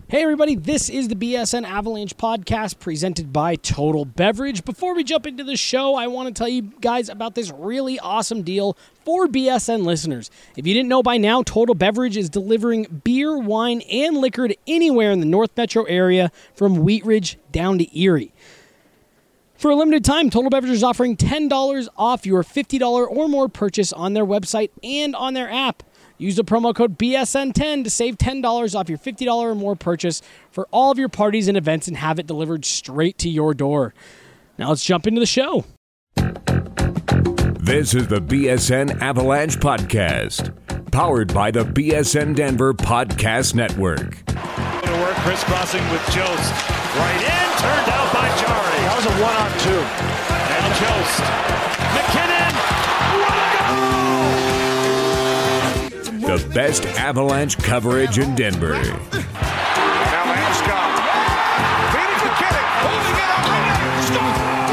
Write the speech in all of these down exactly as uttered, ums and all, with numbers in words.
Hey everybody, this is the B S N Avalanche podcast presented by Total Beverage. Before we jump into the show, I want to tell you guys about this really awesome deal for B S N listeners. If you didn't know by now, Total Beverage is delivering beer, wine, and liquor to anywhere in the North Metro area from Wheat Ridge down to Erie. For a limited time, Total Beverage is offering ten dollars off your fifty dollars or more purchase on their website and on their app. Use the promo code B S N ten to save ten dollars off your fifty dollars or more purchase for all of your parties and events and have it delivered straight to your door. Now let's jump into the show. This is the B S N Avalanche Podcast, powered by the B S N Denver Podcast Network. To work, crisscrossing with Jost. Right in, turned out by Jari. That was a one-on-two. Now Jost. McKinnon. What a goal! The best Avalanche coverage in Denver. Now Landeskog. Feeding McKinnon. Holding it up. Score!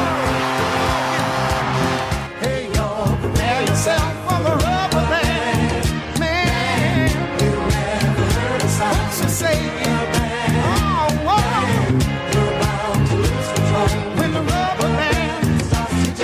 Hey, y'all, prepare yourself for the rubber band. Man, you never heard a sound so say it. Oh, whoa. You're about to lose control when the rubber band starts to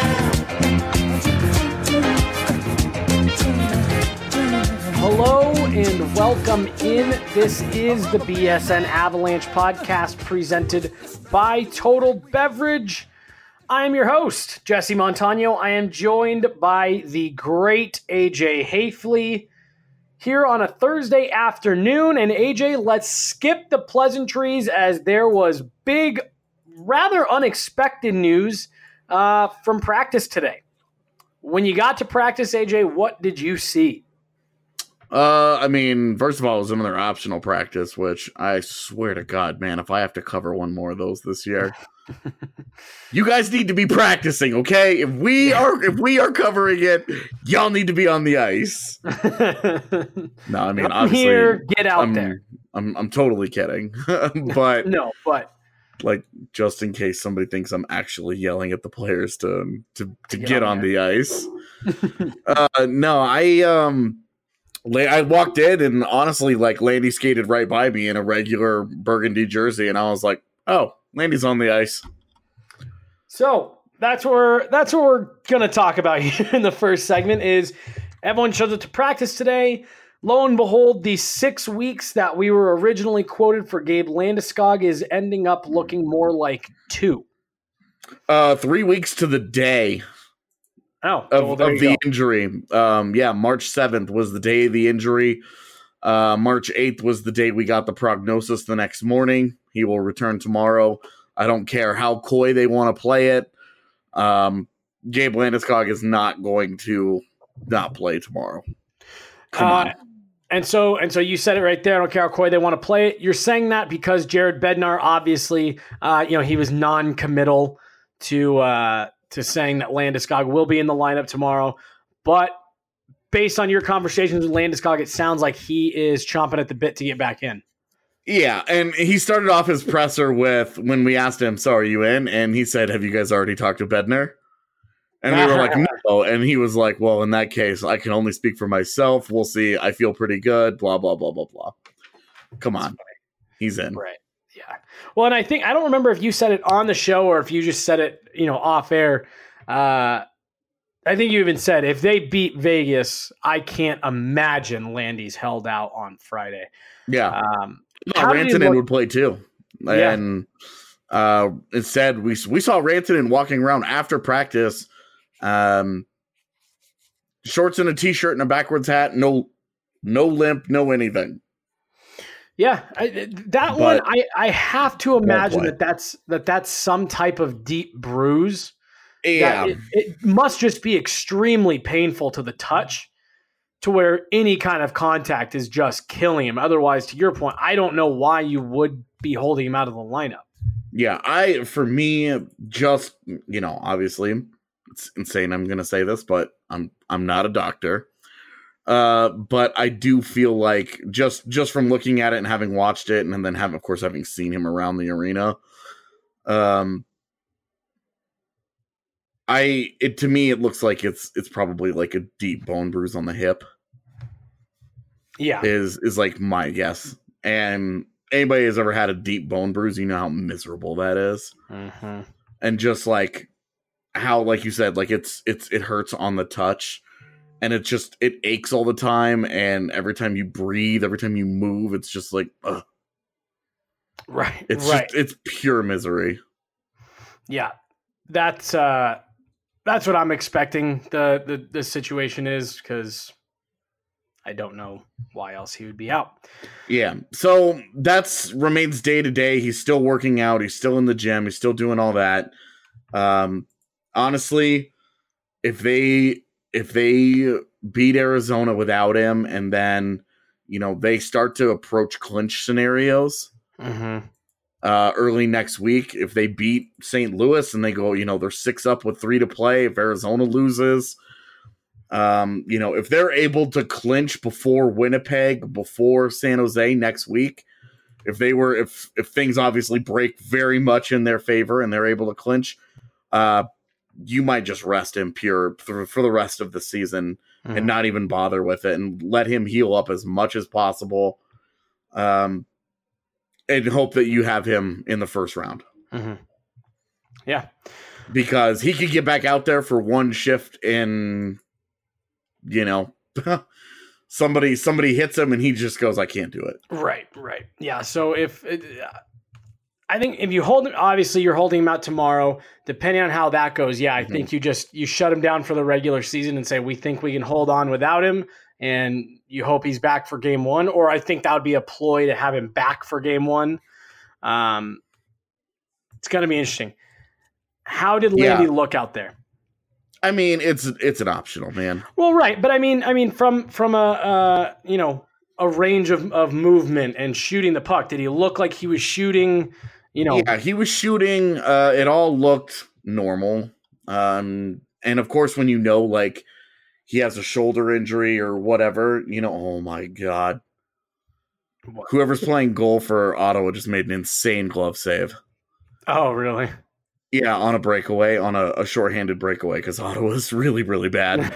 jam. Hello and welcome in. This is the B S N Avalanche podcast presented by Total Beverage. I am your host, Jesse Montano. I am joined by the great A J Hafley here on a Thursday afternoon. And A J, let's skip the pleasantries as there was big, rather unexpected news uh, from practice today. When you got to practice, A J, what did you see? Uh, I mean, first of all, it was another optional practice, which I swear to God, man, if I have to cover one more of those this year, you guys need to be practicing, okay? If we are, if we are covering it, y'all need to be on the ice. No, I mean, Come obviously, here, get out I'm, there. I'm, I'm totally kidding, but No, but like, just in case somebody thinks I'm actually yelling at the players to to to get, Get on, on the ice. uh, no, I um. I walked in and honestly, like, Landy skated right by me in a regular burgundy jersey, and I was like, "Oh, Landy's on the ice." so that's where that's what we're gonna talk about here in the first segment. Is everyone shows up to practice today? Lo and behold, the six weeks that we were originally quoted for Gabe Landeskog is ending up looking more like two. Uh, three weeks to the day Oh, of, well, there of you the go. injury. Um, yeah, March seventh was the day of the injury. Uh, March eighth was the day we got the prognosis the next morning. He will return tomorrow. I don't care how coy they want to play it. Um, Gabe Landeskog is not going to not play tomorrow. Come Uh, on. And so, and so you said it right there. I don't care how coy they want to play it. You're saying that because Jared Bednar, obviously, uh, you know, he was non-committal to uh, to saying that Landeskog will be in the lineup tomorrow. But based on your conversations with Landeskog, it sounds like he is chomping at the bit to get back in. Yeah, and he started off his presser with, when we asked him, "So are you in?" And he said, "Have you guys already talked to Bednar?" And we were like, "No." And he was like, "Well, in that case, I can only speak for myself. We'll see. I feel pretty good, blah, blah, blah, blah, blah." Come on. He's in. Right. Yeah. Well, and I think, I don't remember if you said it on the show or if you just said it, you know, off air. Uh, I think you even said if they beat Vegas, I can't imagine Landy's held out on Friday. Yeah. Um, No, how did you Rantanen look- would play too. Yeah. And uh, instead, we we saw Rantanen walking around after practice, um, shorts and a t-shirt and a backwards hat, no no limp, no anything. Yeah, I, that But- one I, I have to imagine play. that that's that that's some type of deep bruise. Yeah. That it, it must just be extremely painful to the touch, to where any kind of contact is just killing him. Otherwise, to your point, I don't know why you would be holding him out of the lineup. Yeah, I for me, just you know, obviously, it's insane. I'm gonna say this, but I'm I'm not a doctor. Uh, but I do feel like just just from looking at it and having watched it, and then having, of course, having seen him around the arena, um, I it to me it looks like it's it's probably like a deep bone bruise on the hip. Yeah. Is is like my guess, and anybody has ever had a deep bone bruise, you know how miserable that is. Mm-hmm. And just like how, like you said, like it's it's it hurts on the touch, and it just it aches all the time, and every time you breathe, every time you move, it's just like, ugh. Right. It's right. just it's pure misery. Yeah, that's uh, that's what I'm expecting. The the the situation is, because I don't know why else he would be out. Yeah, so that's remains day to day. He's still working out. He's still in the gym. He's still doing all that. Um, honestly, if they if they beat Arizona without him, and then you know they start to approach clinch scenarios. Mm-hmm. Uh, early next week, if they beat Saint Louis and they go, you know, they're six up with three to play. If Arizona loses, um, you know, if they're able to clinch before Winnipeg, before San Jose next week, if they were, if if things obviously break very much in their favor and they're able to clinch, uh, you might just rest him pure for, for the rest of the season mm-hmm. and not even bother with it and let him heal up as much as possible. Um. And hope that you have him in the first round. Mm-hmm. Yeah. Because he could get back out there for one shift and, you know, somebody somebody hits him and he just goes, I can't do it. Right, right. Yeah, so if uh, I think if you hold him, obviously you're holding him out tomorrow, depending on how that goes, yeah, I mm-hmm. think you just, you shut him down for the regular season and say, we think we can hold on without him. And you hope he's back for game one, or I think that would be a ploy to have him back for game one. Um, it's going to be interesting. How did Landy yeah. look out there? I mean, it's it's an optional, man. Well, right, but I mean, I mean, from from a uh, you know a range of, of movement and shooting the puck, did he look like he was shooting? You know, yeah, he was shooting. Uh, it all looked normal, um, and of course, when you know, like. He has a shoulder injury or whatever, you know, oh my God. What? Whoever's playing goal for Ottawa just made an insane glove save. Oh, really? Yeah, on a breakaway, on a, a shorthanded breakaway, because Ottawa's really, really bad.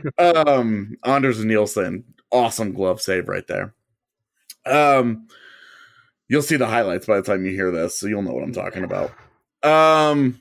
um, Anders Nielsen, awesome glove save right there. Um, you'll see the highlights by the time you hear this, so you'll know what I'm talking about. Um,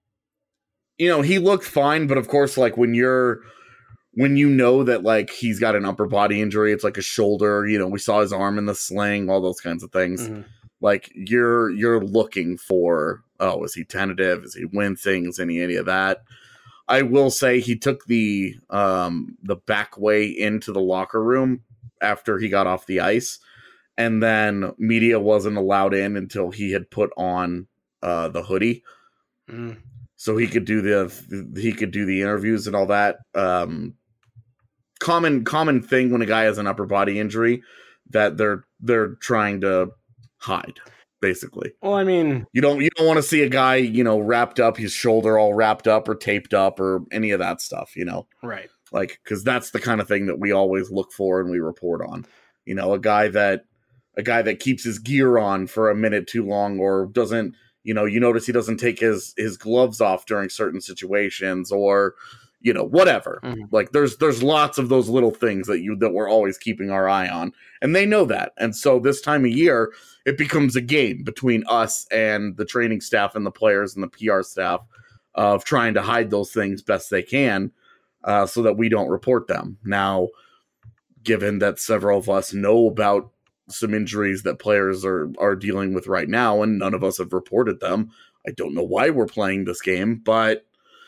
you know, he looked fine, but of course, like when you're When you know that, like, he's got an upper body injury, it's like a shoulder, you know, we saw his arm in the sling, all those kinds of things. Mm-hmm. Like, you're you're looking for, oh, is he tentative? Is he wincing? Is any, any of that? I will say he took the um, the back way into the locker room after he got off the ice, and then media wasn't allowed in until he had put on uh, the hoodie. Mm. So he could do the he could do the interviews and all that. Um, common common thing when a guy has an upper body injury that they're they're trying to hide, basically. Well, I mean, you don't you don't want to see a guy, you know, wrapped up, his shoulder all wrapped up or taped up or any of that stuff, you know. Right. Like, because that's the kind of thing that we always look for and we report on. You know, a guy that a guy that keeps his gear on for a minute too long or doesn't. You know, you notice he doesn't take his, his gloves off during certain situations or, you know, whatever. Mm-hmm. Like there's there's lots of those little things that you that we're always keeping our eye on. And they know that. And so this time of year, it becomes a game between us and the training staff and the players and the P R staff of trying to hide those things best they can uh, so that we don't report them. Now, given that several of us know about some injuries that players are, are dealing with right now, and none of us have reported them. I don't know why we're playing this game, but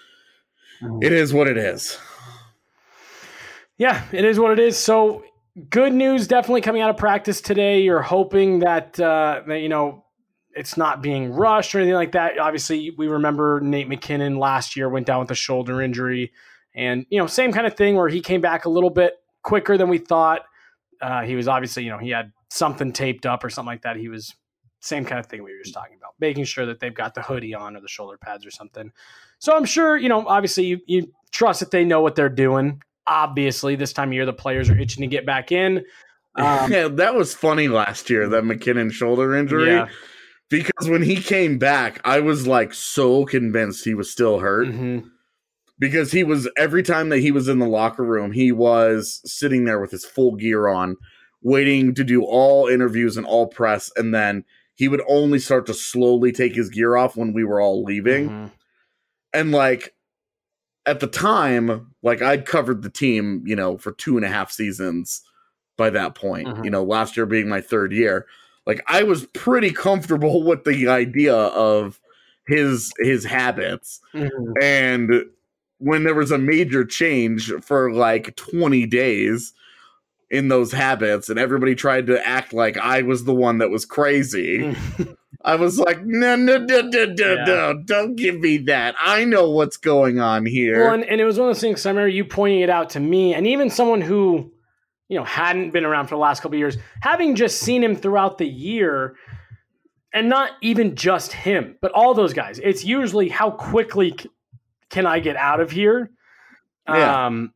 it is what it is. Yeah, it is what it is. So good news definitely coming out of practice today. You're hoping that, uh, that, you know, it's not being rushed or anything like that. Obviously, we remember Nate McKinnon last year went down with a shoulder injury, and, you know, same kind of thing where he came back a little bit quicker than we thought. Uh, he was obviously, you know, he had something taped up or something like that. He was same kind of thing we were just talking about, making sure that they've got the hoodie on or the shoulder pads or something. So I'm sure, you know, obviously you, you trust that they know what they're doing. Obviously, this time of year, the players are itching to get back in. Um, yeah, that was funny last year, that McKinnon shoulder injury, yeah. Because when he came back, I was like so convinced he was still hurt. Mm-hmm. Because he was, every time that he was in the locker room, he was sitting there with his full gear on, waiting to do all interviews and all press, and then he would only start to slowly take his gear off when we were all leaving. Mm-hmm. And like at the time, like I'd covered the team, you know, for two and a half seasons by that point, mm-hmm. you know, last year being my third year. Like I was pretty comfortable with the idea of his his habits. Mm-hmm. And when there was a major change for like twenty days in those habits and everybody tried to act like I was the one that was crazy, I was like, no, no, no, no, no, yeah. no, don't give me that. I know what's going on here. Well, and, and it was one of those things, I remember you pointing it out to me, and even someone who, you know, hadn't been around for the last couple of years, having just seen him throughout the year, and not even just him, but all those guys, it's usually how quickly c- can I get out of here? Yeah. Um,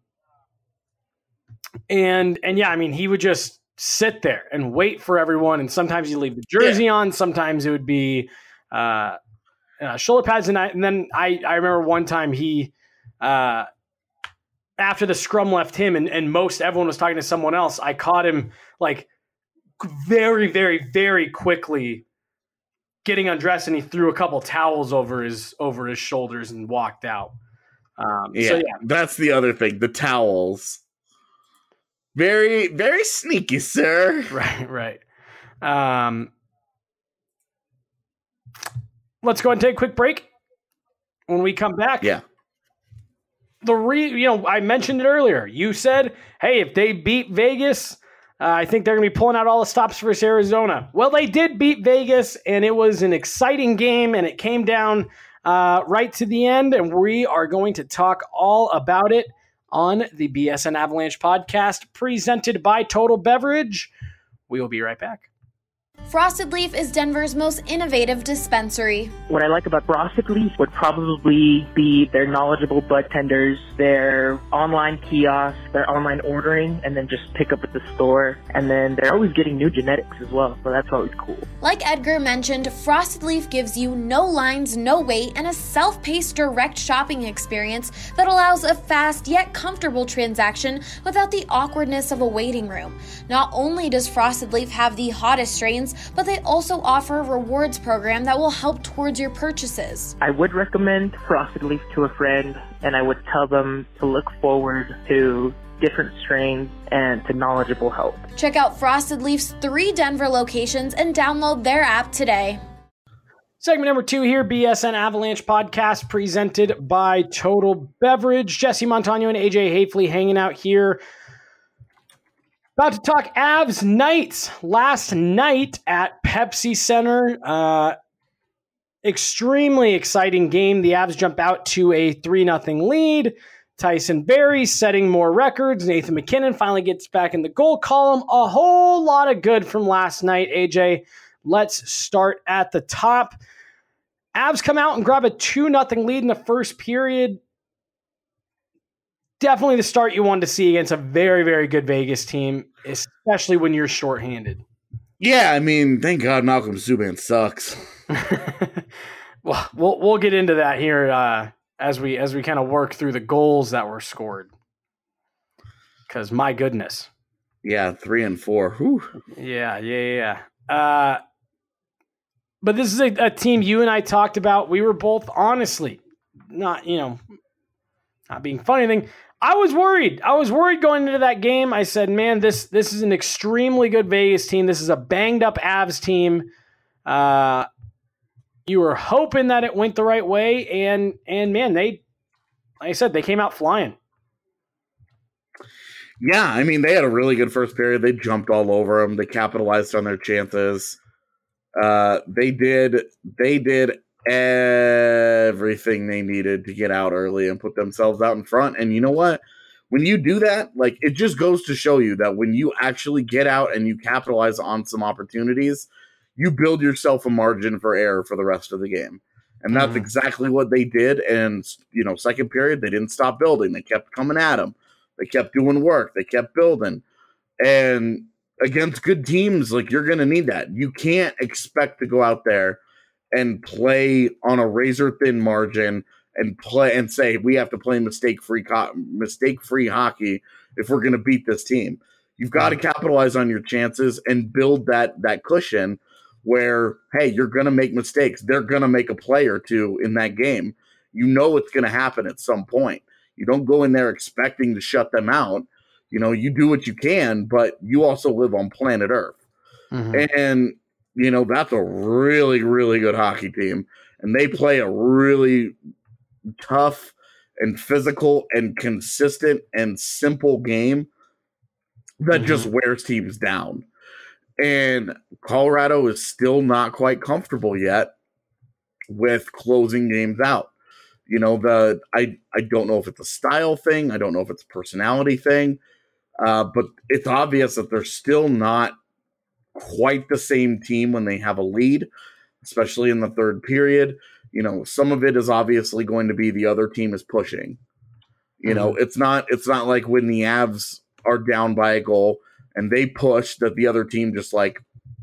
and, and yeah, I mean, he would just sit there and wait for everyone. And sometimes you leave the jersey yeah. on. Sometimes it would be uh, uh, shoulder pads. And, I, and then I, I remember one time he, uh, after the scrum left him and, and most everyone was talking to someone else, I caught him like very, very, very quickly getting undressed, and he threw a couple towels over his over his shoulders and walked out. Um, yeah, so yeah, that's the other thing. The towels. Very, very sneaky, sir. Right, right. Um, let's go ahead and take a quick break. When we come back, yeah. The re, you know, I mentioned it earlier. You said, "Hey, if they beat Vegas, uh, I think they're going to be pulling out all the stops versus Arizona." Well, they did beat Vegas, and it was an exciting game, and it came down uh, right to the end, and we are going to talk all about it on the B S N Avalanche podcast presented by Total Beverage. We will be right back. Frosted Leaf is Denver's most innovative dispensary. What I like about Frosted Leaf would probably be their knowledgeable bud tenders, their online kiosks, their online ordering, and then just pick up at the store. And then they're always getting new genetics as well, so that's always cool. Like Edgar mentioned, Frosted Leaf gives you no lines, no wait, and a self-paced direct shopping experience that allows a fast yet comfortable transaction without the awkwardness of a waiting room. Not only does Frosted Leaf have the hottest strains, but they also offer a rewards program that will help towards your purchases. I would recommend Frosted Leaf to a friend, and I would tell them to look forward to different strains and to knowledgeable help. Check out Frosted Leaf's three Denver locations and download their app today. Segment number two here, B S N Avalanche podcast presented by Total Beverage. Jesse Montano and A J Hafley hanging out here. About to talk Avs Knights. Last night at Pepsi Center, uh, extremely exciting game. The Avs jump out to a three nothing lead. Tyson Barrie setting more records. Nathan MacKinnon finally gets back in the goal column. A whole lot of good from last night, A J. Let's start at the top. Avs come out and grab a two nothing lead in the first period. Definitely the start you wanted to see against a very, very good Vegas team, especially when you're shorthanded. Yeah, I mean, thank God Malcolm Subban sucks. Well, we'll we'll get into that here uh, as we as we kind of work through the goals that were scored. Because my goodness, yeah, three and four. Whew. Yeah, yeah, yeah. Uh, but this is a, a team you and I talked about. We were both honestly not, you know, not being funny thing. I was worried. I was worried going into that game. I said, man, this this is an extremely good Vegas team. This is a banged up Avs team. Uh, you were hoping that it went the right way, and and man, they, like I said, they came out flying. Yeah, I mean, they had a really good first period. They jumped all over them. They capitalized on their chances. Uh, they did. They did. everything they needed to get out early and put themselves out in front. And you know what? When you do that, like, it just goes to show you that when you actually get out and you capitalize on some opportunities, you build yourself a margin for error for the rest of the game. And that's mm. exactly what they did. And, you know, second period, they didn't stop building. They kept coming at them. They kept doing work. They kept building. And against good teams, like, you're going to need that. You can't expect to go out there and play on a razor-thin margin and play and say we have to play mistake-free co- mistake-free hockey if we're going to beat this team. You've got to capitalize on your chances and build that that cushion where, hey, you're going to make mistakes. They're going to make a play or two in that game. You know it's going to happen at some point. You don't go in there expecting to shut them out. You know, you do what you can, but you also live on planet Earth. Mm-hmm. And, you know, that's a really, really good hockey team. And they play a really tough and physical and consistent and simple game that mm-hmm. just wears teams down. And Colorado is still not quite comfortable yet with closing games out. You know, the I, I don't know if it's a style thing. I don't know if it's a personality thing. Uh, but it's obvious that they're still not quite the same team when they have a lead, especially in the third period. You know, some of it is obviously going to be the other team is pushing. You mm-hmm. know, it's not it's not like when the Avs are down by a goal and they push that the other team just like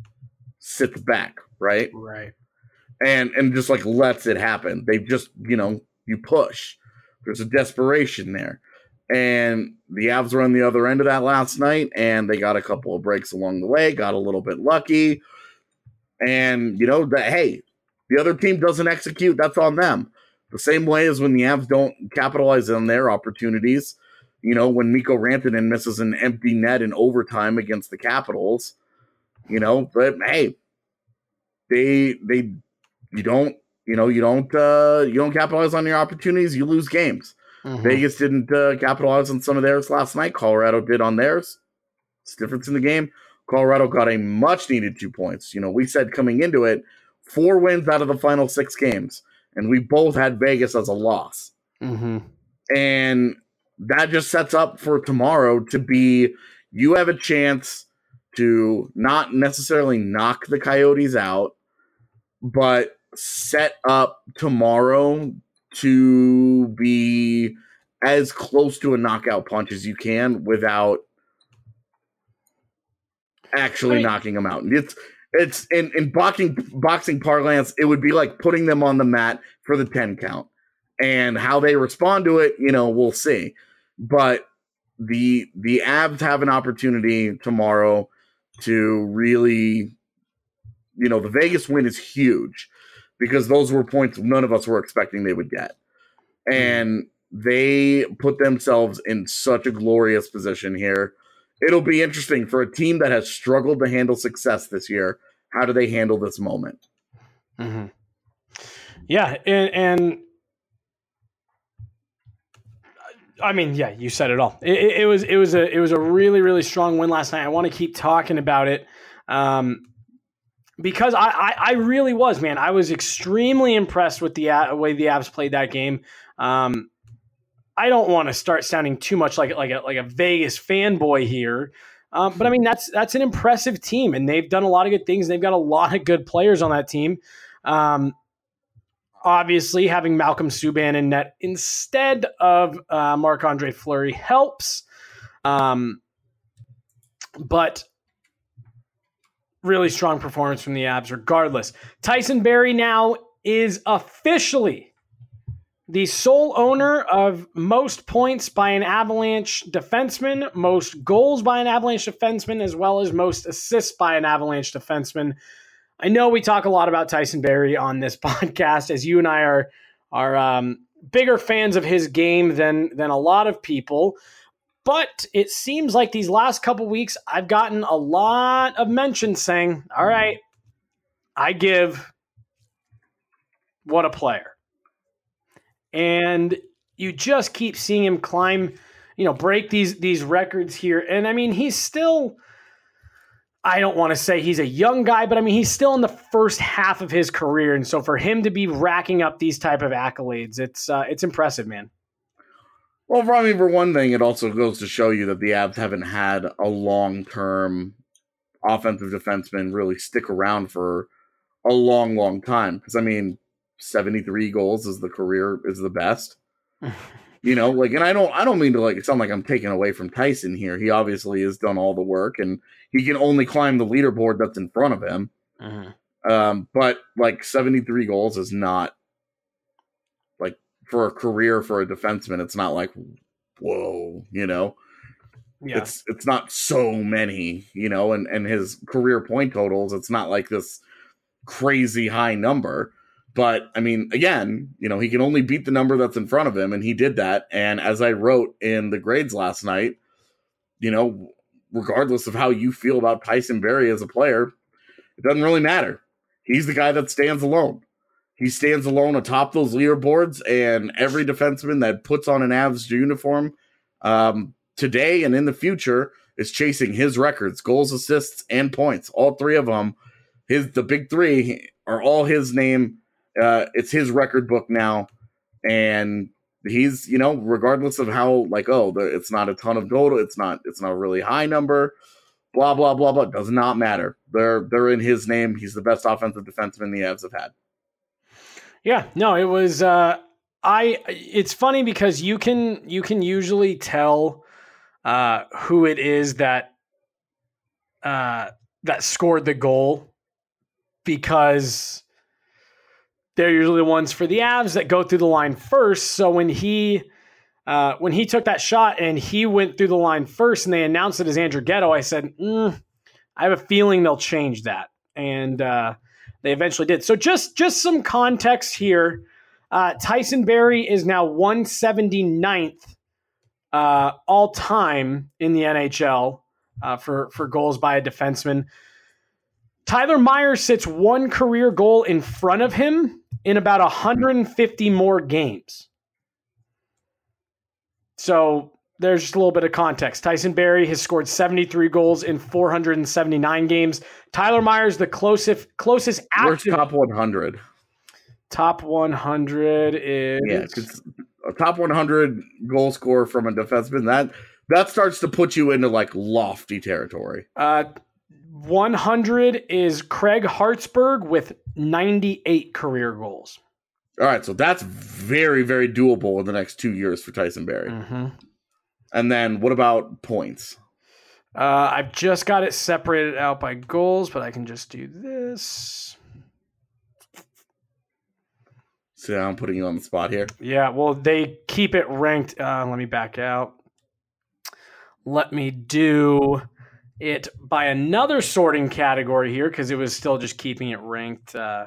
sits back, right? Right. And and just like lets it happen. They just, you know, you push. There's a desperation there. And the Avs were on the other end of that last night, and they got a couple of breaks along the way, got a little bit lucky. And, you know, that hey, the other team doesn't execute, that's on them. The same way as when the Avs don't capitalize on their opportunities. You know, when Mikko Rantanen misses an empty net in overtime against the Capitals, you know, but hey, they they you don't you know you don't uh, you don't capitalize on your opportunities, you lose games. Mm-hmm. Vegas didn't uh, capitalize on some of theirs last night. Colorado did on theirs. It's the difference in the game. Colorado got a much needed two points. You know, we said coming into it, four wins out of the final six games, and we both had Vegas as a loss. Mm-hmm. And that just sets up for tomorrow to be, you have a chance to not necessarily knock the Coyotes out, but set up tomorrow to be as close to a knockout punch as you can without actually I mean, knocking them out. It's it's in, in boxing boxing parlance, it would be like putting them on the mat for the ten count. And how they respond to it, you know, we'll see. But the the Avs have an opportunity tomorrow to really, you know, the Vegas win is huge because those were points none of us were expecting they would get. And they put themselves in such a glorious position here. It'll be interesting for a team that has struggled to handle success this year. How do they handle this moment? Mm-hmm. Yeah, and, and I mean, yeah, you said it all. It, it, it was it was a it was a really really strong win last night. I want to keep talking about it um, because I, I I really was, man. I was extremely impressed with the uh, way the Avs played that game. Um, I don't want to start sounding too much like like a like a Vegas fanboy here, um, but I mean that's that's an impressive team, and they've done a lot of good things. They've got a lot of good players on that team. Um, Obviously, having Malcolm Subban in net instead of uh, Marc-Andre Fleury helps. Um, but really strong performance from the Avs regardless. Tyson Barrie now is officially the sole owner of most points by an Avalanche defenseman, most goals by an Avalanche defenseman, as well as most assists by an Avalanche defenseman. I know we talk a lot about Tyson Barrie on this podcast, as you and I are are um, bigger fans of his game than than a lot of people. But it seems like these last couple weeks, I've gotten a lot of mentions saying, "All right, I give what a player," and you just keep seeing him climb, you know, break these these records here. And I mean, he's still. I don't want to say he's a young guy, but I mean, he's still in the first half of his career. And so for him to be racking up these type of accolades, it's uh, it's impressive, man. Well, for, I mean, for one thing, it also goes to show you that the Avs haven't had a long-term offensive defenseman really stick around for a long, long time. Because, I mean, seventy-three goals is the career, is the best. You know, like, and I don't, I don't mean to like sound like I'm taking away from Tyson here. He obviously has done all the work, and he can only climb the leaderboard that's in front of him. Uh-huh. Um, but like seventy-three goals is not like for a career for a defenseman. It's not like whoa, you know. Yeah. It's it's not so many, you know, and, and his career point totals, it's not like this crazy high number. But, I mean, again, you know, he can only beat the number that's in front of him, and he did that. And as I wrote in the grades last night, you know, regardless of how you feel about Tyson Barrie as a player, it doesn't really matter. He's the guy that stands alone. He stands alone atop those leaderboards, and every defenseman that puts on an Avs uniform um, today and in the future is chasing his records, goals, assists, and points. All three of them, his the big three, are all his name. Uh, it's his record book now, and he's, you know, regardless of how, like, oh, the, it's not a ton of goal, it's not, it's not a really high number, blah blah blah blah. Does not matter. They're they're in his name. He's the best offensive defenseman the Avs have had. Yeah, no, it was. Uh, I. It's funny because you can you can usually tell uh, who it is that uh, that scored the goal because they're usually the ones for the Avs that go through the line first. So when he uh, when he took that shot and he went through the line first, and they announced it as Andrew Ghetto, I said, mm, I have a feeling they'll change that, and uh, they eventually did. So just just some context here. Uh, Tyson Barrie is now one hundred seventy-ninth uh, all time in the N H L uh, for for goals by a defenseman. Tyler Myers sits one career goal in front of him in about one hundred fifty more games. So there's just a little bit of context. Tyson Barrie has scored seventy-three goals in four hundred seventy-nine games. Tyler Myers, the closest closest Where's active top one hundred? Top one hundred is Yeah, because a top one hundred goal scorer from a defenseman, that that starts to put you into like lofty territory. uh, one hundred is Craig Hartsburg with ninety-eight career goals. All right, so that's very, very doable in the next two years for Tyson Barrie. Mm-hmm. And then what about points? Uh, I've just got it separated out by goals, but I can just do this. So I'm putting you on the spot here. Yeah, well, they keep it ranked. Uh, let me back out. Let me do it by another sorting category here because it was still just keeping it ranked. Uh,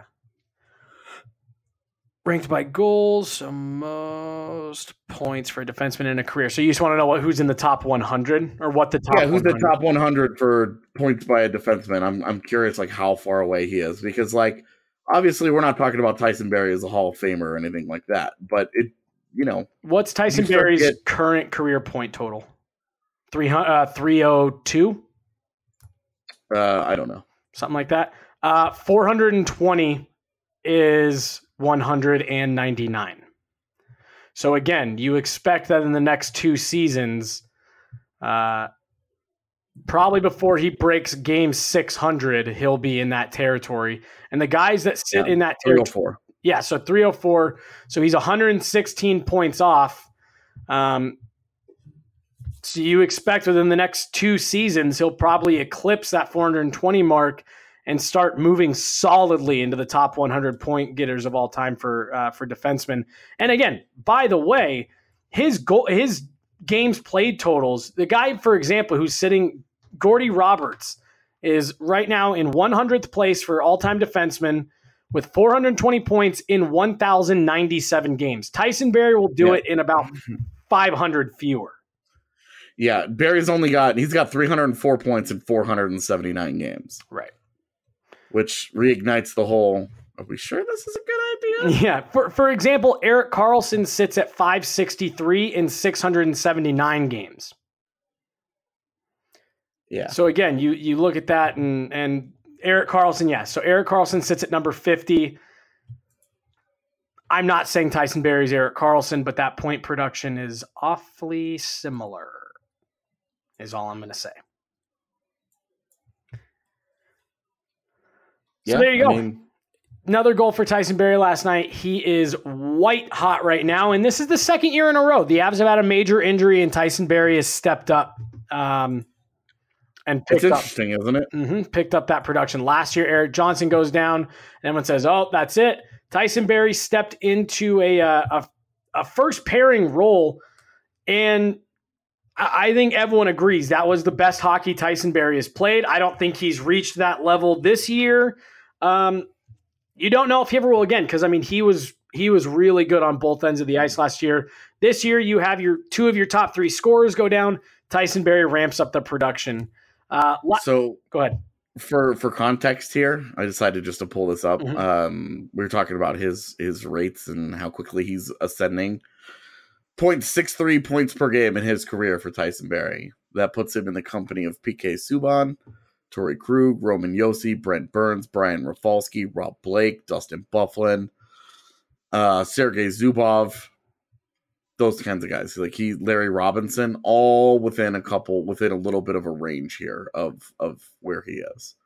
ranked by goals, so most points for a defenseman in a career. So you just want to know what who's in the top one hundred or what the top? Yeah, who's one hundred? the top one hundred for points by a defenseman? I'm I'm curious, like how far away he is, because like obviously we're not talking about Tyson Barrie as a Hall of Famer or anything like that, but it, you know, What's Tyson Barrie's get, current career point total? three hundred, uh, three oh two? Uh, I don't know. Something like that. Uh, four hundred twenty is one hundred ninety-nine. So again, you expect that in the next two seasons, uh, probably before he breaks game six hundred, he'll be in that territory. And the guys that sit yeah, in that territory, three oh four. Yeah, so three oh four. So he's one hundred sixteen points off. Um, so you expect within the next two seasons, he'll probably eclipse that four hundred twenty mark and start moving solidly into the top one hundred point getters of all time for uh, for defensemen. And again, by the way, his goal, his games played totals. The guy, for example, who's sitting, Gordy Roberts, is right now in one hundredth place for all-time defenseman with four hundred twenty points in one thousand ninety-seven games. Tyson Barrie will do yeah. it in about five hundred fewer. Yeah, Barry's only got, he's got three hundred four points in four hundred seventy-nine games. Right. Which reignites the whole, are we sure this is a good idea? Yeah. For for example, Erik Karlsson sits at five sixty-three in six hundred seventy-nine games. Yeah. So again, you you look at that and and Erik Karlsson, yes. So Erik Karlsson sits at number fifty. I'm not saying Tyson Barrie's Erik Karlsson, but that point production is awfully similar, is all I'm going to say. So yeah, there you go. I mean, another goal for Tyson Barrie last night. He is white hot right now, and this is the second year in a row. The Avs have had a major injury, and Tyson Barrie has stepped up um, and picked it's up. interesting, isn't it? Mm-hmm, picked up that production. Last year, Erik Johnson goes down, and everyone says, oh, that's it. Tyson Barrie stepped into a, uh, a, a first pairing role, and I think everyone agrees that was the best hockey Tyson Barrie has played. I don't think he's reached that level this year. Um, you don't know if he ever will again, because I mean he was he was really good on both ends of the ice last year. This year you have your two of your top three scorers go down. Tyson Barrie ramps up the production. Uh, so go ahead. For for context here, I decided just to pull this up. Mm-hmm. Um, we were talking about his his rates and how quickly he's ascending. zero point six three points per game in his career for Tyson Barrie. That puts him in the company of P K Subban, Torrey Krug, Roman Josi, Brent Burns, Brian Rafalski, Rob Blake, Dustin Byfuglien, uh, Sergei Zubov, those kinds of guys. Like he, Larry Robinson, all within a couple, within a little bit of a range here of of where he is.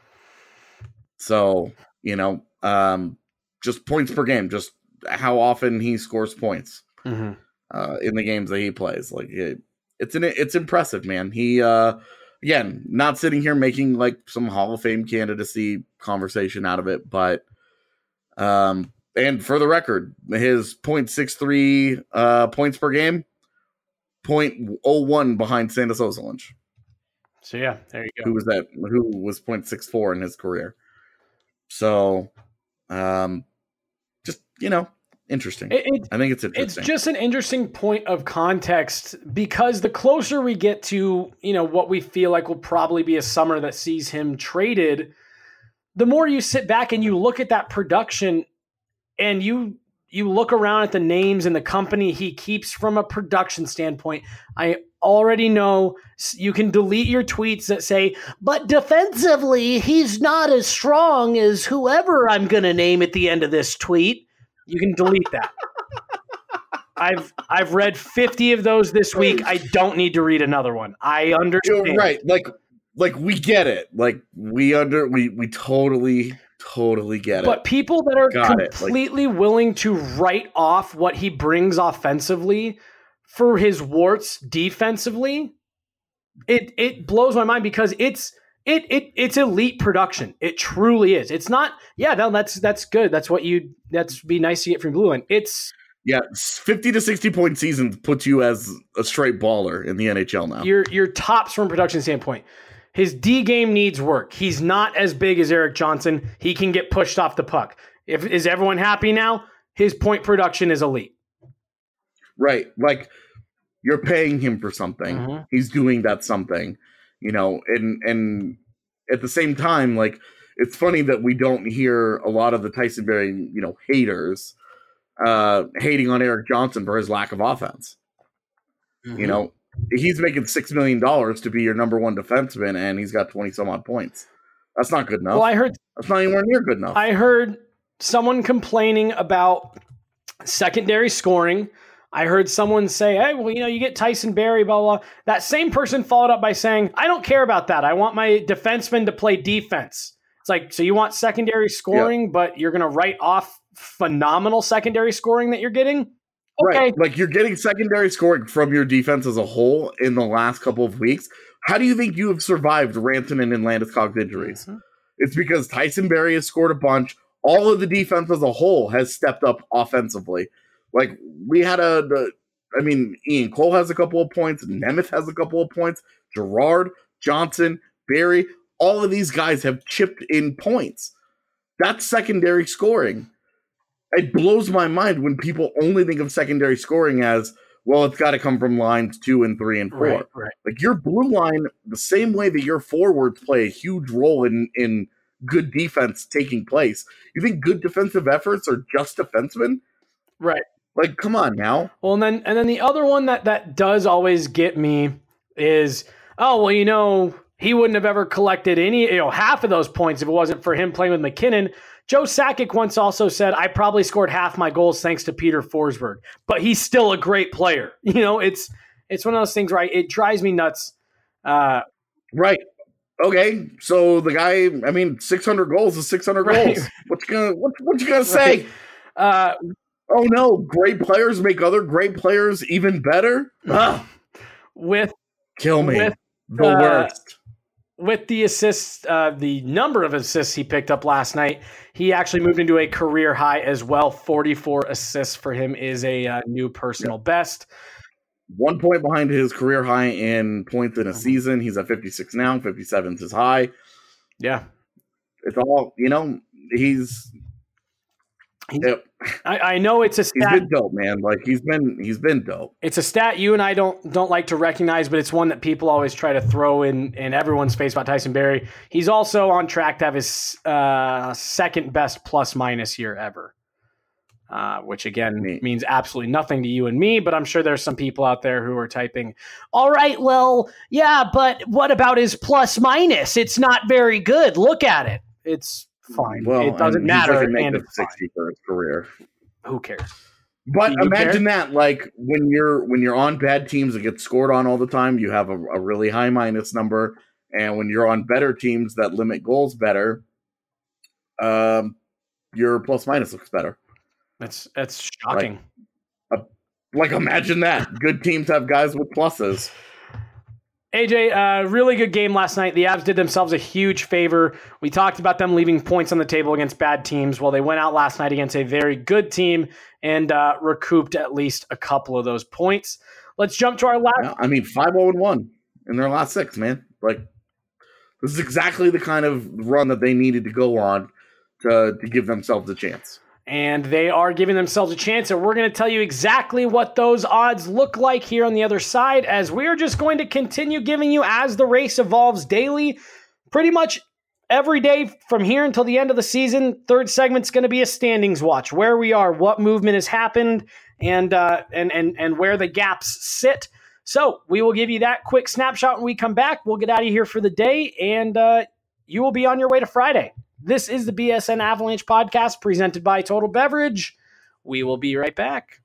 So, you know, um, just points per game, just how often he scores points. Mm-hmm. Uh, in the games that he plays, like it, it's an, it's impressive, man. He uh, again, not sitting here making like some Hall of Fame candidacy conversation out of it, but um, and for the record, his point six three uh points per game, point oh one behind Sandis Ozolinsh. So yeah, there you go. Who was that? Who was point six four in his career? So, um, just you know. Interesting. It, it, I think it's interesting. It's just an interesting point of context because the closer we get to, you know, what we feel like will probably be a summer that sees him traded, the more you sit back and you look at that production and you you look around at the names and the company he keeps from a production standpoint. I already know you can delete your tweets that say, but defensively, he's not as strong as whoever I'm going to name at the end of this tweet. You can delete that. I've I've read fifty of those this week. I don't need to read another one. I understand. You're right. Like like we get it. Like we under we we totally totally get it. But people that are Got completely like, willing to write off what he brings offensively for his warts defensively, it it blows my mind because it's It it it's elite production. It truly is. It's not. Yeah, no, that's that's good. That's what you. That's be nice to get from Blue Line. It's yeah, fifty to sixty point seasons puts you as a straight baller in the N H L now. Your your tops from a production standpoint. His D game needs work. He's not as big as Erik Johnson. He can get pushed off the puck. If is everyone happy now? His point production is elite. Right, like you're paying him for something. Mm-hmm. He's doing that something. You know, and and at the same time, like it's funny that we don't hear a lot of the Tyson Barrie, you know, haters uh, hating on Erik Johnson for his lack of offense. Mm-hmm. You know, he's making six million dollars to be your number one defenseman, and he's got twenty some odd points. That's not good enough. Well, I heard that's not anywhere near good enough. I heard someone complaining about secondary scoring. I heard someone say, hey, well, you know, you get Tyson Barrie, blah, blah, blah. That same person followed up by saying, I don't care about that. I want my defenseman to play defense. It's like, so you want secondary scoring, yeah. but you're going to write off phenomenal secondary scoring that you're getting? Okay. Right. Like you're getting secondary scoring from your defense as a whole in the last couple of weeks. How do you think you have survived Rantanen and Landeskog's injuries? Mm-hmm. It's because Tyson Barrie has scored a bunch. All of the defense as a whole has stepped up offensively. Like we had a, the, I mean, Ian Cole has a couple of points. Nemeth has a couple of points. Gerard, Johnson, Barrie, all of these guys have chipped in points. That's secondary scoring. It blows my mind when people only think of secondary scoring as, well, it's got to come from lines two and three and four. Right, right. Like your blue line, the same way that your forwards play a huge role in, in good defense taking place. You think good defensive efforts are just defensemen? Right. Like, come on now. Well, and then and then the other one that, that does always get me is, oh, well, you know, he wouldn't have ever collected any, you know, half of those points if it wasn't for him playing with McKinnon. Joe Sakic once also said, I probably scored half my goals thanks to Peter Forsberg, but he's still a great player. You know, it's it's one of those things, right? It drives me nuts. Uh, right. Okay. So the guy, I mean, six hundred goals is six hundred right. goals. What you gonna what, what you gonna say? Right. Uh, oh no, great players make other great players even better. Ugh. With kill me. With, the uh, worst. With the assists, uh, the number of assists he picked up last night, he actually moved into a career high as well. forty-four assists for him is a uh, new personal yep. best. one point behind his career high in points in a season. He's at fifty-six now. fifty-seven is his high. Yeah. It's all, you know, he's... Yep. I, I know it's a stat. He's been dope, man. Like he's been, he's been dope. It's a stat you and I don't don't like to recognize, but it's one that people always try to throw in in everyone's face about Tyson Barrie. He's also on track to have his uh, second best plus minus year ever, uh, which again Neat. means absolutely nothing to you and me. But I'm sure there's some people out there who are typing, "All right, well, yeah, but what about his plus minus? It's not very good. Look at it. It's fine. Well, it doesn't and matter." He's like a and negative it's sixty for his career. Who cares? But Do you imagine care? that, like when you're when you're on bad teams that get scored on all the time, you have a, a really high minus number, and when you're on better teams that limit goals better, um, your plus minus looks better. That's that's shocking. Like, uh, like imagine that. Good teams have guys with pluses. A J, uh, really good game last night. The Avs did themselves a huge favor. We talked about them leaving points on the table against bad teams. Well, they went out last night against a very good team and uh, recouped at least a couple of those points. Let's jump to our last. Yeah, I mean, five oh one in their last six, man. Like, this is exactly the kind of run that they needed to go on to, to give themselves a chance. And they are giving themselves a chance, and we're going to tell you exactly what those odds look like here on the other side, as we're just going to continue giving you, as the race evolves daily, pretty much every day from here until the end of the season. Third segment's going to be a standings watch, where we are, what movement has happened, and uh, and and and where the gaps sit. So we will give you that quick snapshot when we come back. We'll get out of here for the day, and uh, you will be on your way to Friday. This is the B S N Avalanche podcast presented by Total Beverage. We will be right back.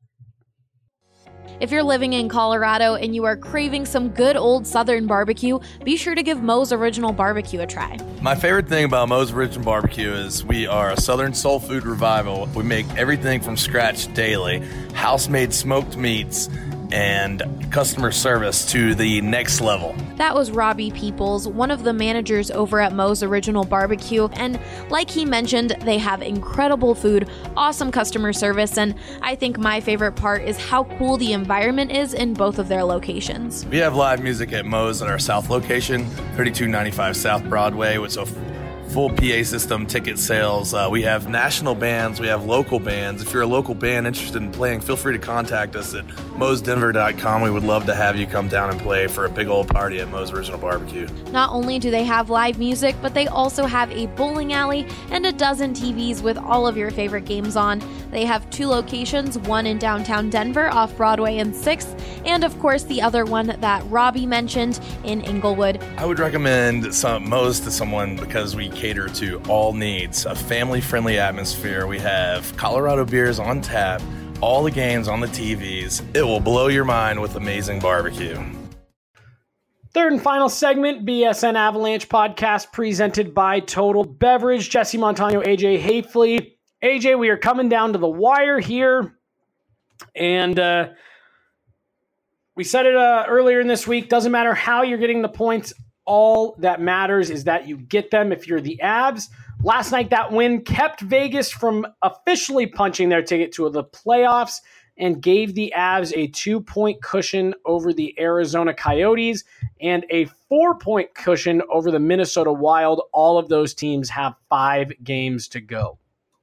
If you're living in Colorado and you are craving some good old Southern barbecue, be sure to give Moe's Original Barbecue a try. My favorite thing about Moe's Original Barbecue is we are a Southern soul food revival. We make everything from scratch daily, house-made smoked meats, and customer service to the next level. That was Robbie Peoples, one of the managers over at Moe's Original Barbecue, and like he mentioned, they have incredible food, awesome customer service, and I think my favorite part is how cool the environment is in both of their locations. We have live music at Moe's at our South location, thirty-two ninety-five South Broadway, with a full P A system, ticket sales. Uh, we have national bands. We have local bands. If you're a local band interested in playing, feel free to contact us at moes denver dot com. We would love to have you come down and play for a big old party at Moe's Original Barbecue. Not only do they have live music, but they also have a bowling alley and a dozen T Vs with all of your favorite games on. They have two locations, one in downtown Denver off Broadway and sixth, and of course the other one that Robbie mentioned in Inglewood. I would recommend some Moe's to someone because we cater to all needs, a family-friendly atmosphere. We have Colorado beers on tap, all the games on the T Vs. It will blow your mind with amazing barbecue. Third and final segment, B S N Avalanche podcast presented by Total Beverage. Jesse Montano, A J Hafley. A J, we are coming down to the wire here, and uh, we said it uh, earlier in this week. Doesn't matter how you're getting the points. All that matters is that you get them if you're the Avs. Last night, that win kept Vegas from officially punching their ticket to the playoffs and gave the Avs a two-point cushion over the Arizona Coyotes and a four-point cushion over the Minnesota Wild. All of those teams have five games to go.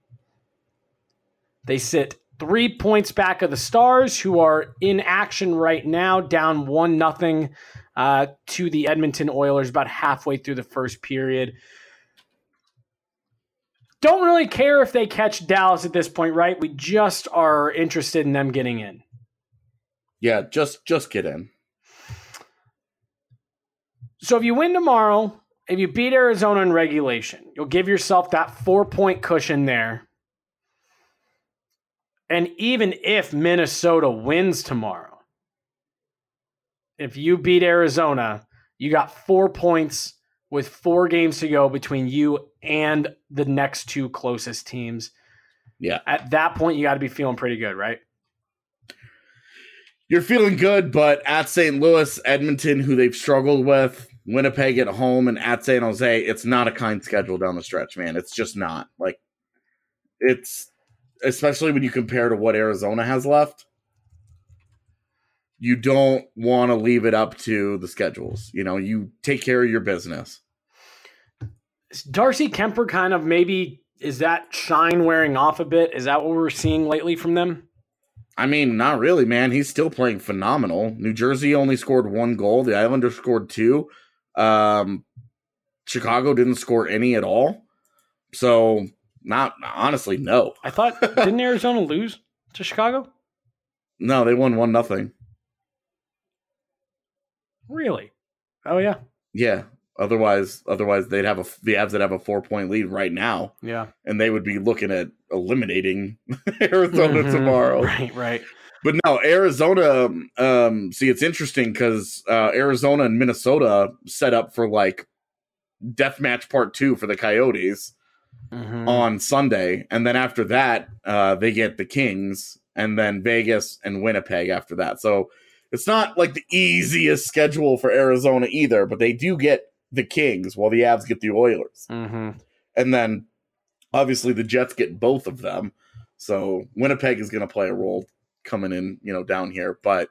They sit three points back of the Stars, who are in action right now, down one nothing uh, to the Edmonton Oilers about halfway through the first period. Don't really care if they catch Dallas at this point, right? We just are interested in them getting in. Yeah, just just get in. So if you win tomorrow, if you beat Arizona in regulation, you'll give yourself that four-point cushion there. And even if Minnesota wins tomorrow, if you beat Arizona, you got four points with four games to go between you and the next two closest teams. Yeah. At that point, you got to be feeling pretty good, right? You're feeling good, but at Saint Louis, Edmonton, who they've struggled with, Winnipeg at home, and at San Jose, it's not a kind schedule down the stretch, man. It's just not. Like, it's... Especially when you compare to what Arizona has left. you don't want to leave it up to the schedules. You know, you take care of your business. Darcy Kemper kind of maybe, is that shine wearing off a bit? Is that what we're seeing lately from them? I mean, not really, man. He's still playing phenomenal. New Jersey only scored one goal. The Islanders scored two. Um, Chicago didn't score any at all. So, not honestly, no. I thought, didn't Arizona lose to Chicago? No, they won one nothing. Really? Oh yeah. Yeah. Otherwise, otherwise they'd have a the Avs would have a four point lead right now. Yeah. And they would be looking at eliminating Arizona mm-hmm. tomorrow. Right, right. But no, Arizona. Um, see, it's interesting because uh, Arizona and Minnesota set up for like deathmatch part two for the Coyotes mm-hmm. on Sunday, and then after that, uh, they get the Kings, and then Vegas and Winnipeg after that. So it's not like the easiest schedule for Arizona either, but they do get the Kings while the Avs get the Oilers. Mm-hmm. And then obviously the Jets get both of them. So Winnipeg is going to play a role coming in, you know, down here. But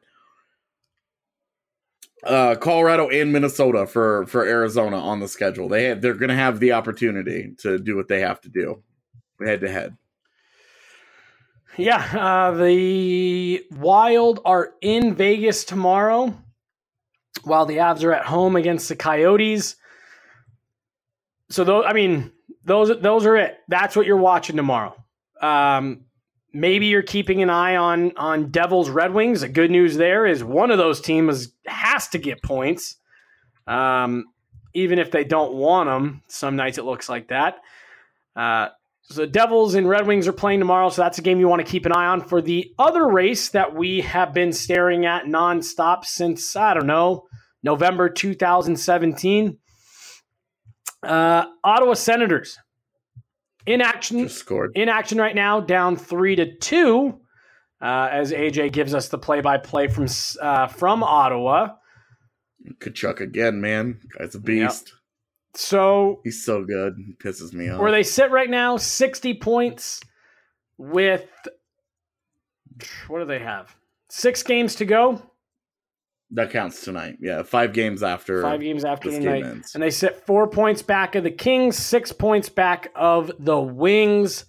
uh, Colorado and Minnesota for, for Arizona on the schedule. They have, they're going to have the opportunity to do what they have to do head to head. Yeah, uh, the Wild are in Vegas tomorrow, while the Avs are at home against the Coyotes. So, those, I mean, those those are it. That's what you're watching tomorrow. Um, maybe you're keeping an eye on on Devils Red Wings. The good news there is one of those teams has to get points, um, even if they don't want them. Some nights it looks like that. Uh, So the Devils and Red Wings are playing tomorrow, so that's a game you want to keep an eye on. For the other race that we have been staring at nonstop since, I don't know, November two thousand seventeen, uh, Ottawa Senators in action, Just scored. in action right now, down three to two, uh, as A J gives us the play-by-play from uh, from Ottawa. Kachuk again, man. Guy's a beast. Yep. So he's so good. He pisses me off. Where they sit right now, sixty points with, what do they have? Six games to go. That counts tonight. Yeah, five games after. Five games after this tonight. game ends. And they sit four points back of the Kings, six points back of the Wings.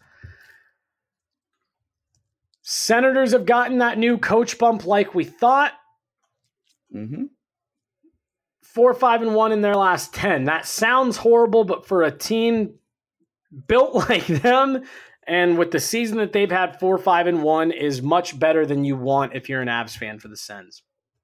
Senators have gotten that new coach bump like we thought. Mm-hmm. Four, five, and one in their last ten. That sounds horrible, but for a team built like them and with the season that they've had, four, five, and one is much better than you want if you're an Avs fan for the Sens.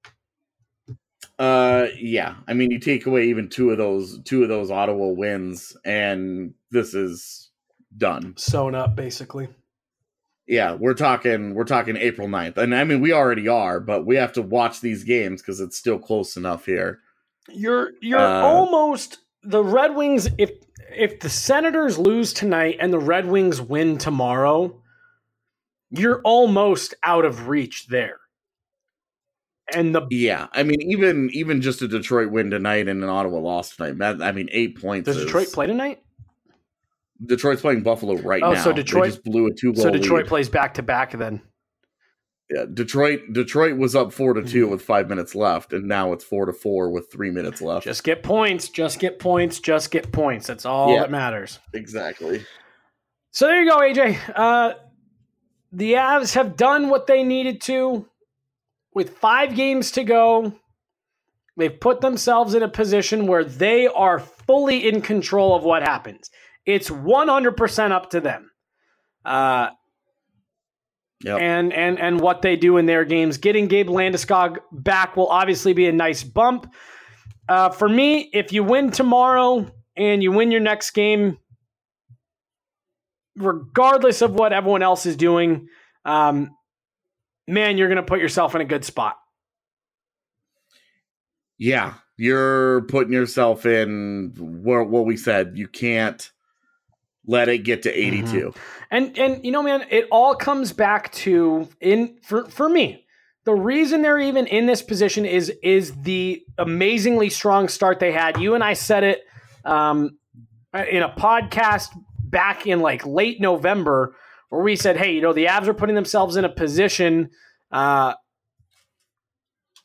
Uh, yeah. I mean, you take away even two of those, two of those Ottawa wins, and this is done. Sewn up, basically. Yeah, we're talking, we're talking April ninth, and I mean, we already are, but we have to watch these games because it's still close enough here. You're you're uh, almost the Red Wings. If if the Senators lose tonight and the Red Wings win tomorrow, you're almost out of reach there. And the yeah, I mean, even even just a Detroit win tonight and an Ottawa loss tonight. That, I mean, eight points. Does is, Detroit play tonight? Detroit's playing Buffalo right oh, now. Oh, so Detroit they just blew a two goal. So Detroit lead. plays back to back then. Yeah, Detroit Detroit was up four to two with five minutes left, and now it's four to four with three minutes left. Just get points, just get points, just get points. That's all yeah, that matters. Exactly. So there you go, A J. Uh, the Avs have done what they needed to. With five games to go, they've put themselves in a position where they are fully in control of what happens. It's one hundred percent up to them. Uh Yep. And and and what they do in their games. Getting Gabe Landeskog back will obviously be a nice bump. Uh, for me, if you win tomorrow and you win your next game, regardless of what everyone else is doing, um, man, you're going to put yourself in a good spot. Yeah, you're putting yourself in what, what we said. You can't let it get to eighty-two. Mm-hmm. And, and you know, man, it all comes back to, in for, for me, the reason they're even in this position is, is the amazingly strong start they had. You and I said it um, in a podcast back in like late November where we said, hey, you know, the Avs are putting themselves in a position uh,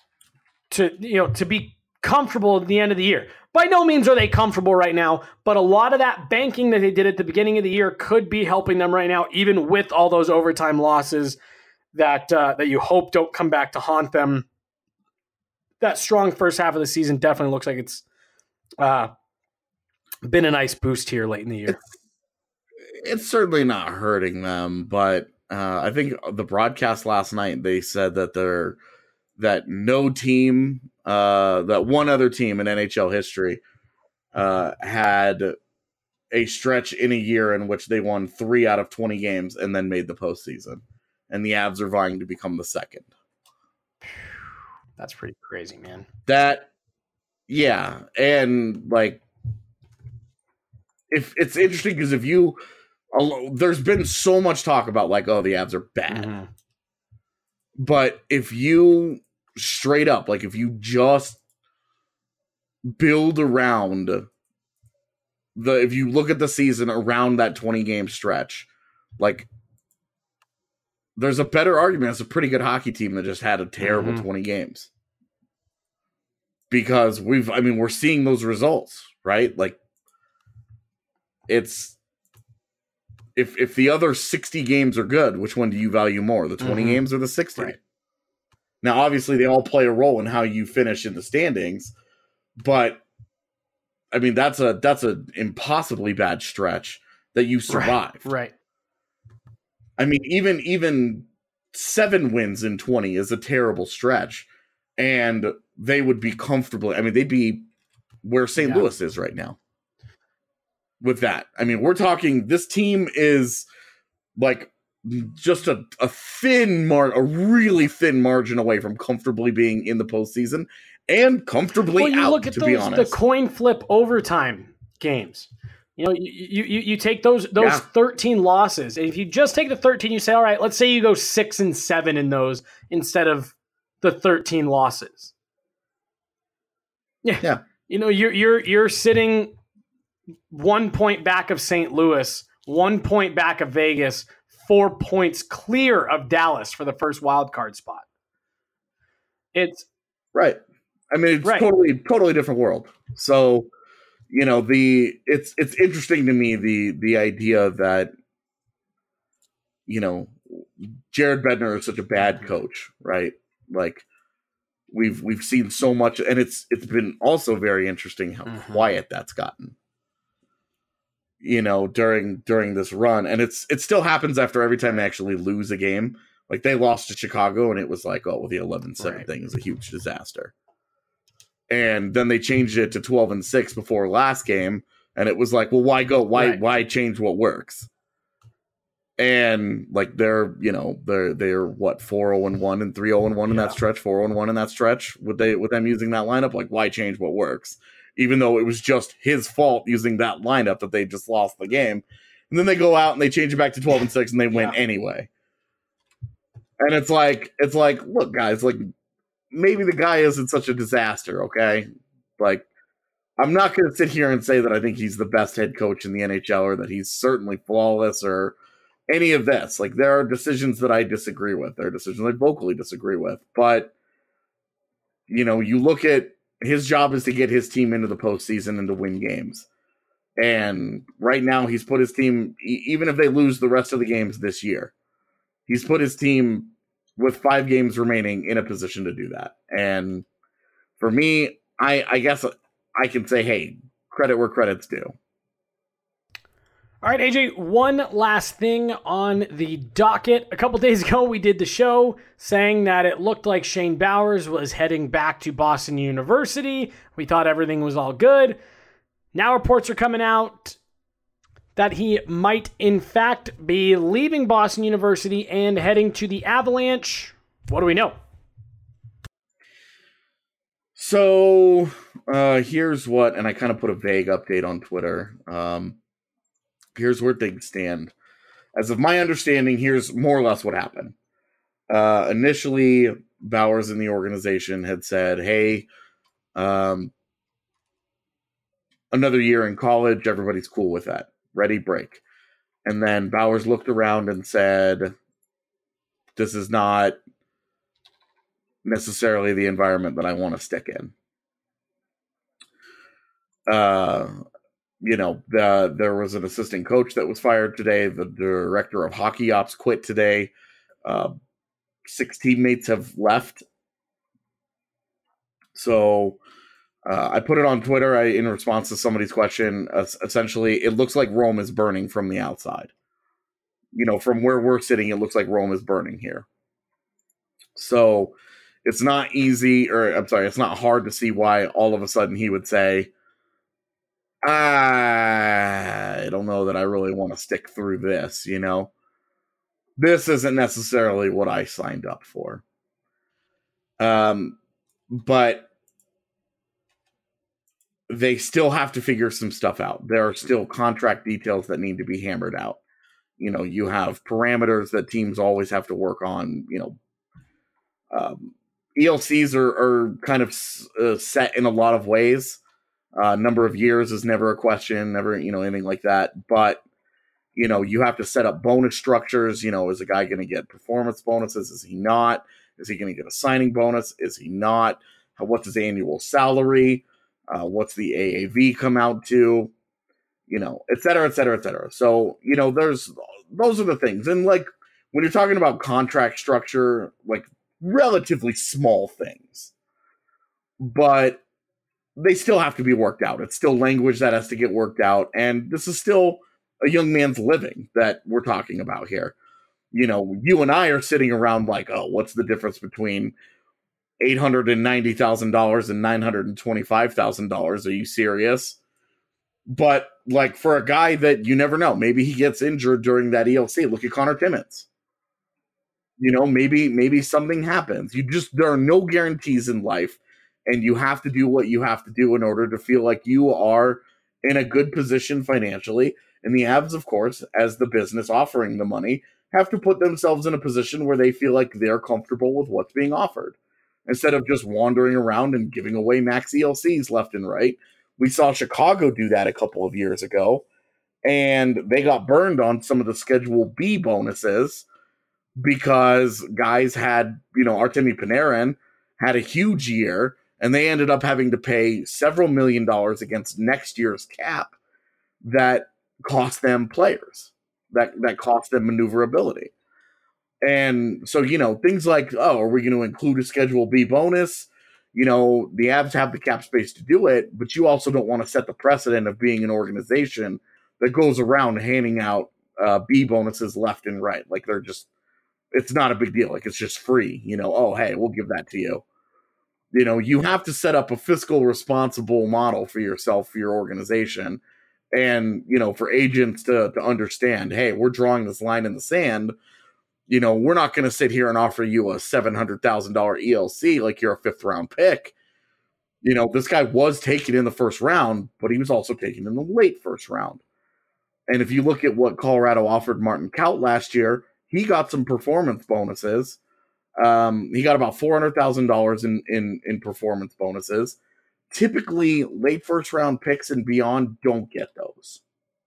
to you know to be comfortable at the end of the year. By no means are they comfortable right now, but a lot of that banking that they did at the beginning of the year could be helping them right now, even with all those overtime losses that uh, that you hope don't come back to haunt them. That strong first half of the season definitely looks like it's uh, been a nice boost here late in the year. It's, it's certainly not hurting them, but uh, I think the broadcast last night, they said that they're that no team, uh, that one other team in N H L history uh, had a stretch in a year in which they won three out of twenty games and then made the postseason. And the Avs are vying to become the second. That's pretty crazy, man. That, yeah. And like, if it's interesting because if you, there's been so much talk about like, oh, the Avs are bad. Mm-hmm. But if you straight up, like if you just build around the, if you look at the season around that twenty game stretch, like there's a better argument. It's a pretty good hockey team that just had a terrible mm-hmm. twenty games. Because we've, I mean, we're seeing those results, right? Like it's, if if the other sixty games are good, which one do you value more? The twenty mm-hmm. games or the sixty? Right. Now, obviously, they all play a role in how you finish in the standings, but I mean, that's a that's an impossibly bad stretch that you survived. Right. right. I mean, even even seven wins in twenty is a terrible stretch, and they would be comfortably. I mean, they'd be where Saint Yeah. Louis is right now. With that, I mean, we're talking. This team is like just a, a thin mar, a really thin margin away from comfortably being in the postseason and comfortably well, you out. Look at to those, be honest, the coin flip overtime games. You know, you you you take those those yeah. thirteen losses. If you just take the thirteen, you say, all right, let's say you go six and seven in those instead of the thirteen losses. Yeah, yeah. You know, you're you're you're sitting one point back of Saint Louis, one point back of Vegas, four points clear of Dallas for the first wild card spot. It's right. I mean, it's right. totally totally different world. So. You know, the it's it's interesting to me the the idea that, you know, Jared Bednar is such a bad coach, right? Like we've we've seen so much, and it's it's been also very interesting how mm-hmm. quiet that's gotten. You know, during during this run, and it's it still happens after every time they actually lose a game. Like they lost to Chicago, and it was like, oh, well, the eleven seven right. thing is a huge disaster. And then they changed it to twelve and six before last game. And it was like, well, why go? Why, right. why change what works? And like, they're, you know, they're, they're what, four oh and one and three oh and one in yeah. that stretch, four oh and one in that stretch with they, with them using that lineup. Like, why change what works? Even though it was just his fault using that lineup that they just lost the game. And then they go out and they change it back to twelve and six and they win yeah. anyway. And it's like, it's like, look, guys, like, maybe the guy isn't such a disaster, okay? Like, I'm not going to sit here and say that I think he's the best head coach in the N H L or that he's certainly flawless or any of this. Like, there are decisions that I disagree with. There are decisions I vocally disagree with. But, you know, you look at his job is to get his team into the postseason and to win games. And right now he's put his team, even if they lose the rest of the games this year, he's put his team with five games remaining in a position to do that. And for me, I, I guess I can say, hey, credit where credit's due. All right, A J, one last thing on the docket. A couple days ago, we did the show saying that it looked like Shane Bowers was heading back to Boston University. We thought everything was all good. Now reports are coming out that he might, in fact, be leaving Boston University and heading to the Avalanche. What do we know? So, uh, here's what, and I kind of put a vague update on Twitter. Um, here's where things stand. As of my understanding, here's more or less what happened. Uh, initially, Bowers in the organization had said, hey, um, another year in college, everybody's cool with that. Ready, break. And then Bowers looked around and said, this is not necessarily the environment that I want to stick in. Uh, you know, the, there was an assistant coach that was fired today. The director of hockey ops quit today. Uh, six teammates have left. So uh, I put it on Twitter I, in response to somebody's question. Uh, essentially, it looks like Rome is burning from the outside. You know, from where we're sitting, it looks like Rome is burning here. So it's not easy, or I'm sorry, it's not hard to see why all of a sudden he would say, I don't know that I really want to stick through this, you know? This isn't necessarily what I signed up for. Um, but they still have to figure some stuff out. There are still contract details that need to be hammered out. You know, you have parameters that teams always have to work on, you know. Um, E L Cs are, are kind of uh, set in a lot of ways. Uh, number of years is never a question, never, you know, anything like that. But, you know, you have to set up bonus structures. You know, is a guy going to get performance bonuses? Is he not? Is he going to get a signing bonus? Is he not? What's his annual salary? Uh, what's the A A V come out to? You know, et cetera, et cetera, et cetera. So, you know, there's, those are the things. And like, when you're talking about contract structure, like relatively small things, but they still have to be worked out. It's still language that has to get worked out. And this is still a young man's living that we're talking about here. You know, you and I are sitting around like, oh, what's the difference between eight hundred ninety thousand dollars and nine hundred twenty-five thousand dollars? Are you serious? But like for a guy that you never know, maybe he gets injured during that E L C. Look at Connor Timmins. You know, maybe, maybe something happens. You just, there are no guarantees in life. And you have to do what you have to do in order to feel like you are in a good position financially. And the Avs, of course, as the business offering the money, have to put themselves in a position where they feel like they're comfortable with what's being offered. Instead of just wandering around and giving away max E L Cs left and right. We saw Chicago do that a couple of years ago. And they got burned on some of the Schedule B bonuses because guys had, you know, Artemi Panarin had a huge year. And they ended up having to pay several million dollars against next year's cap that cost them players, that, that cost them maneuverability. And so, you know, things like, oh, are we going to include a Schedule B bonus? You know, the Avs have the cap space to do it, but you also don't want to set the precedent of being an organization that goes around handing out uh, B bonuses left and right. Like they're just, it's not a big deal. Like it's just free, you know, oh, hey, we'll give that to you. You know, you have to set up a fiscal responsible model for yourself, for your organization, and, you know, for agents to, to understand, hey, we're drawing this line in the sand. You know, we're not going to sit here and offer you a seven hundred thousand dollars E L C like you're a fifth round pick. You know, this guy was taken in the first round, but he was also taken in the late first round. And if you look at what Colorado offered Martin Kaut last year, he got some performance bonuses. Um, he got about four hundred thousand dollars in, in, in performance bonuses. Typically, late first round picks and beyond don't get those.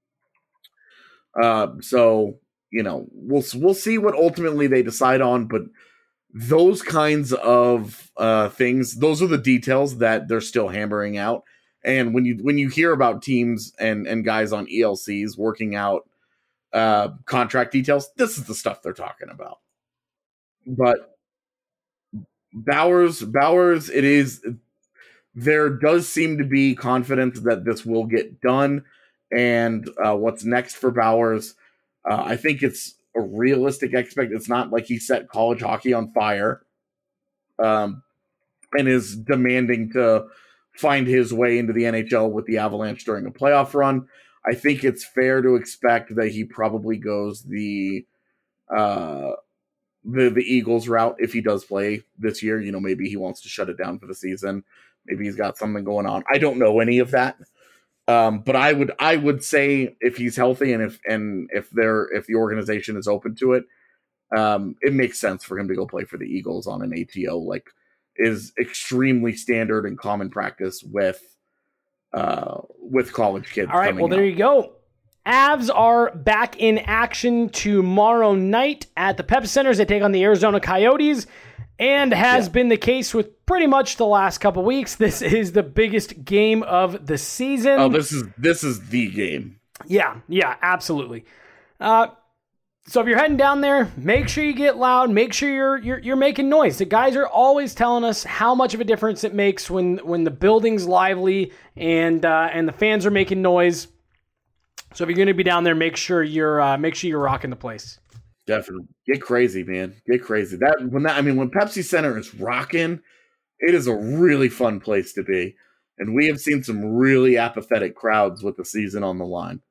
Uh, so, you know, we'll we'll see what ultimately they decide on, but those kinds of uh, things, those are the details that they're still hammering out. And when you when you hear about teams and, and guys on E L Cs working out uh, contract details, this is the stuff they're talking about. But Bowers, Bowers, it is, there does seem to be confidence that this will get done. And uh, what's next for Bowers, uh, I think it's a realistic expect. It's not like he set college hockey on fire um, and is demanding to find his way into the N H L with the Avalanche during a playoff run. I think it's fair to expect that he probably goes the uh, the the Eagles route if he does play this year. You know, maybe he wants to shut it down for the season. Maybe he's got something going on. I don't know any of that. Um, but I would I would say if he's healthy and if and if they're if the organization is open to it, um, it makes sense for him to go play for the Eagles on an A T O. Like, is extremely standard and common practice with uh, with college kids. All right, well, there up. you go. Avs are back in action tomorrow night at the Pep Center as they take on the Arizona Coyotes. And has Yeah. been the case with pretty much the last couple weeks. This is the biggest game of the season. Oh, this is this is the game. Yeah, yeah, absolutely. Uh, so if you're heading down there, make sure you get loud. Make sure you're you're you're making noise. The guys are always telling us how much of a difference it makes when when the building's lively and uh, and the fans are making noise. So if you're going to be down there, make sure you're uh, make sure you're rocking the place. Definitely. Get crazy, man. Get crazy. That when that I mean when Pepsi Center is rocking, it is a really fun place to be. And we have seen some really apathetic crowds with the season on the line.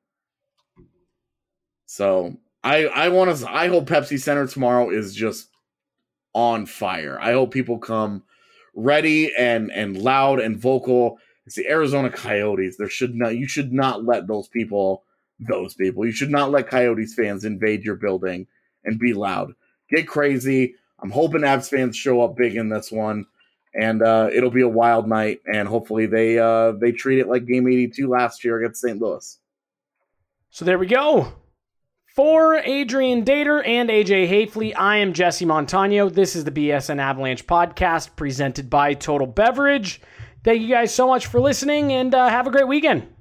So I I want to I hope Pepsi Center tomorrow is just on fire. I hope people come ready and and loud and vocal. It's the Arizona Coyotes. There should not you should not let those people those people. You should not let Coyotes fans invade your building and be loud. Get crazy. I'm hoping Avs fans show up big in this one, and uh, it'll be a wild night, and hopefully they uh, they treat it like Game eighty-two last year against Saint Louis. So there we go. For Adrian Dater and A J Hafley, I am Jesse Montano. This is the B S N Avalanche podcast presented by Total Beverage. Thank you guys so much for listening, and uh, have a great weekend.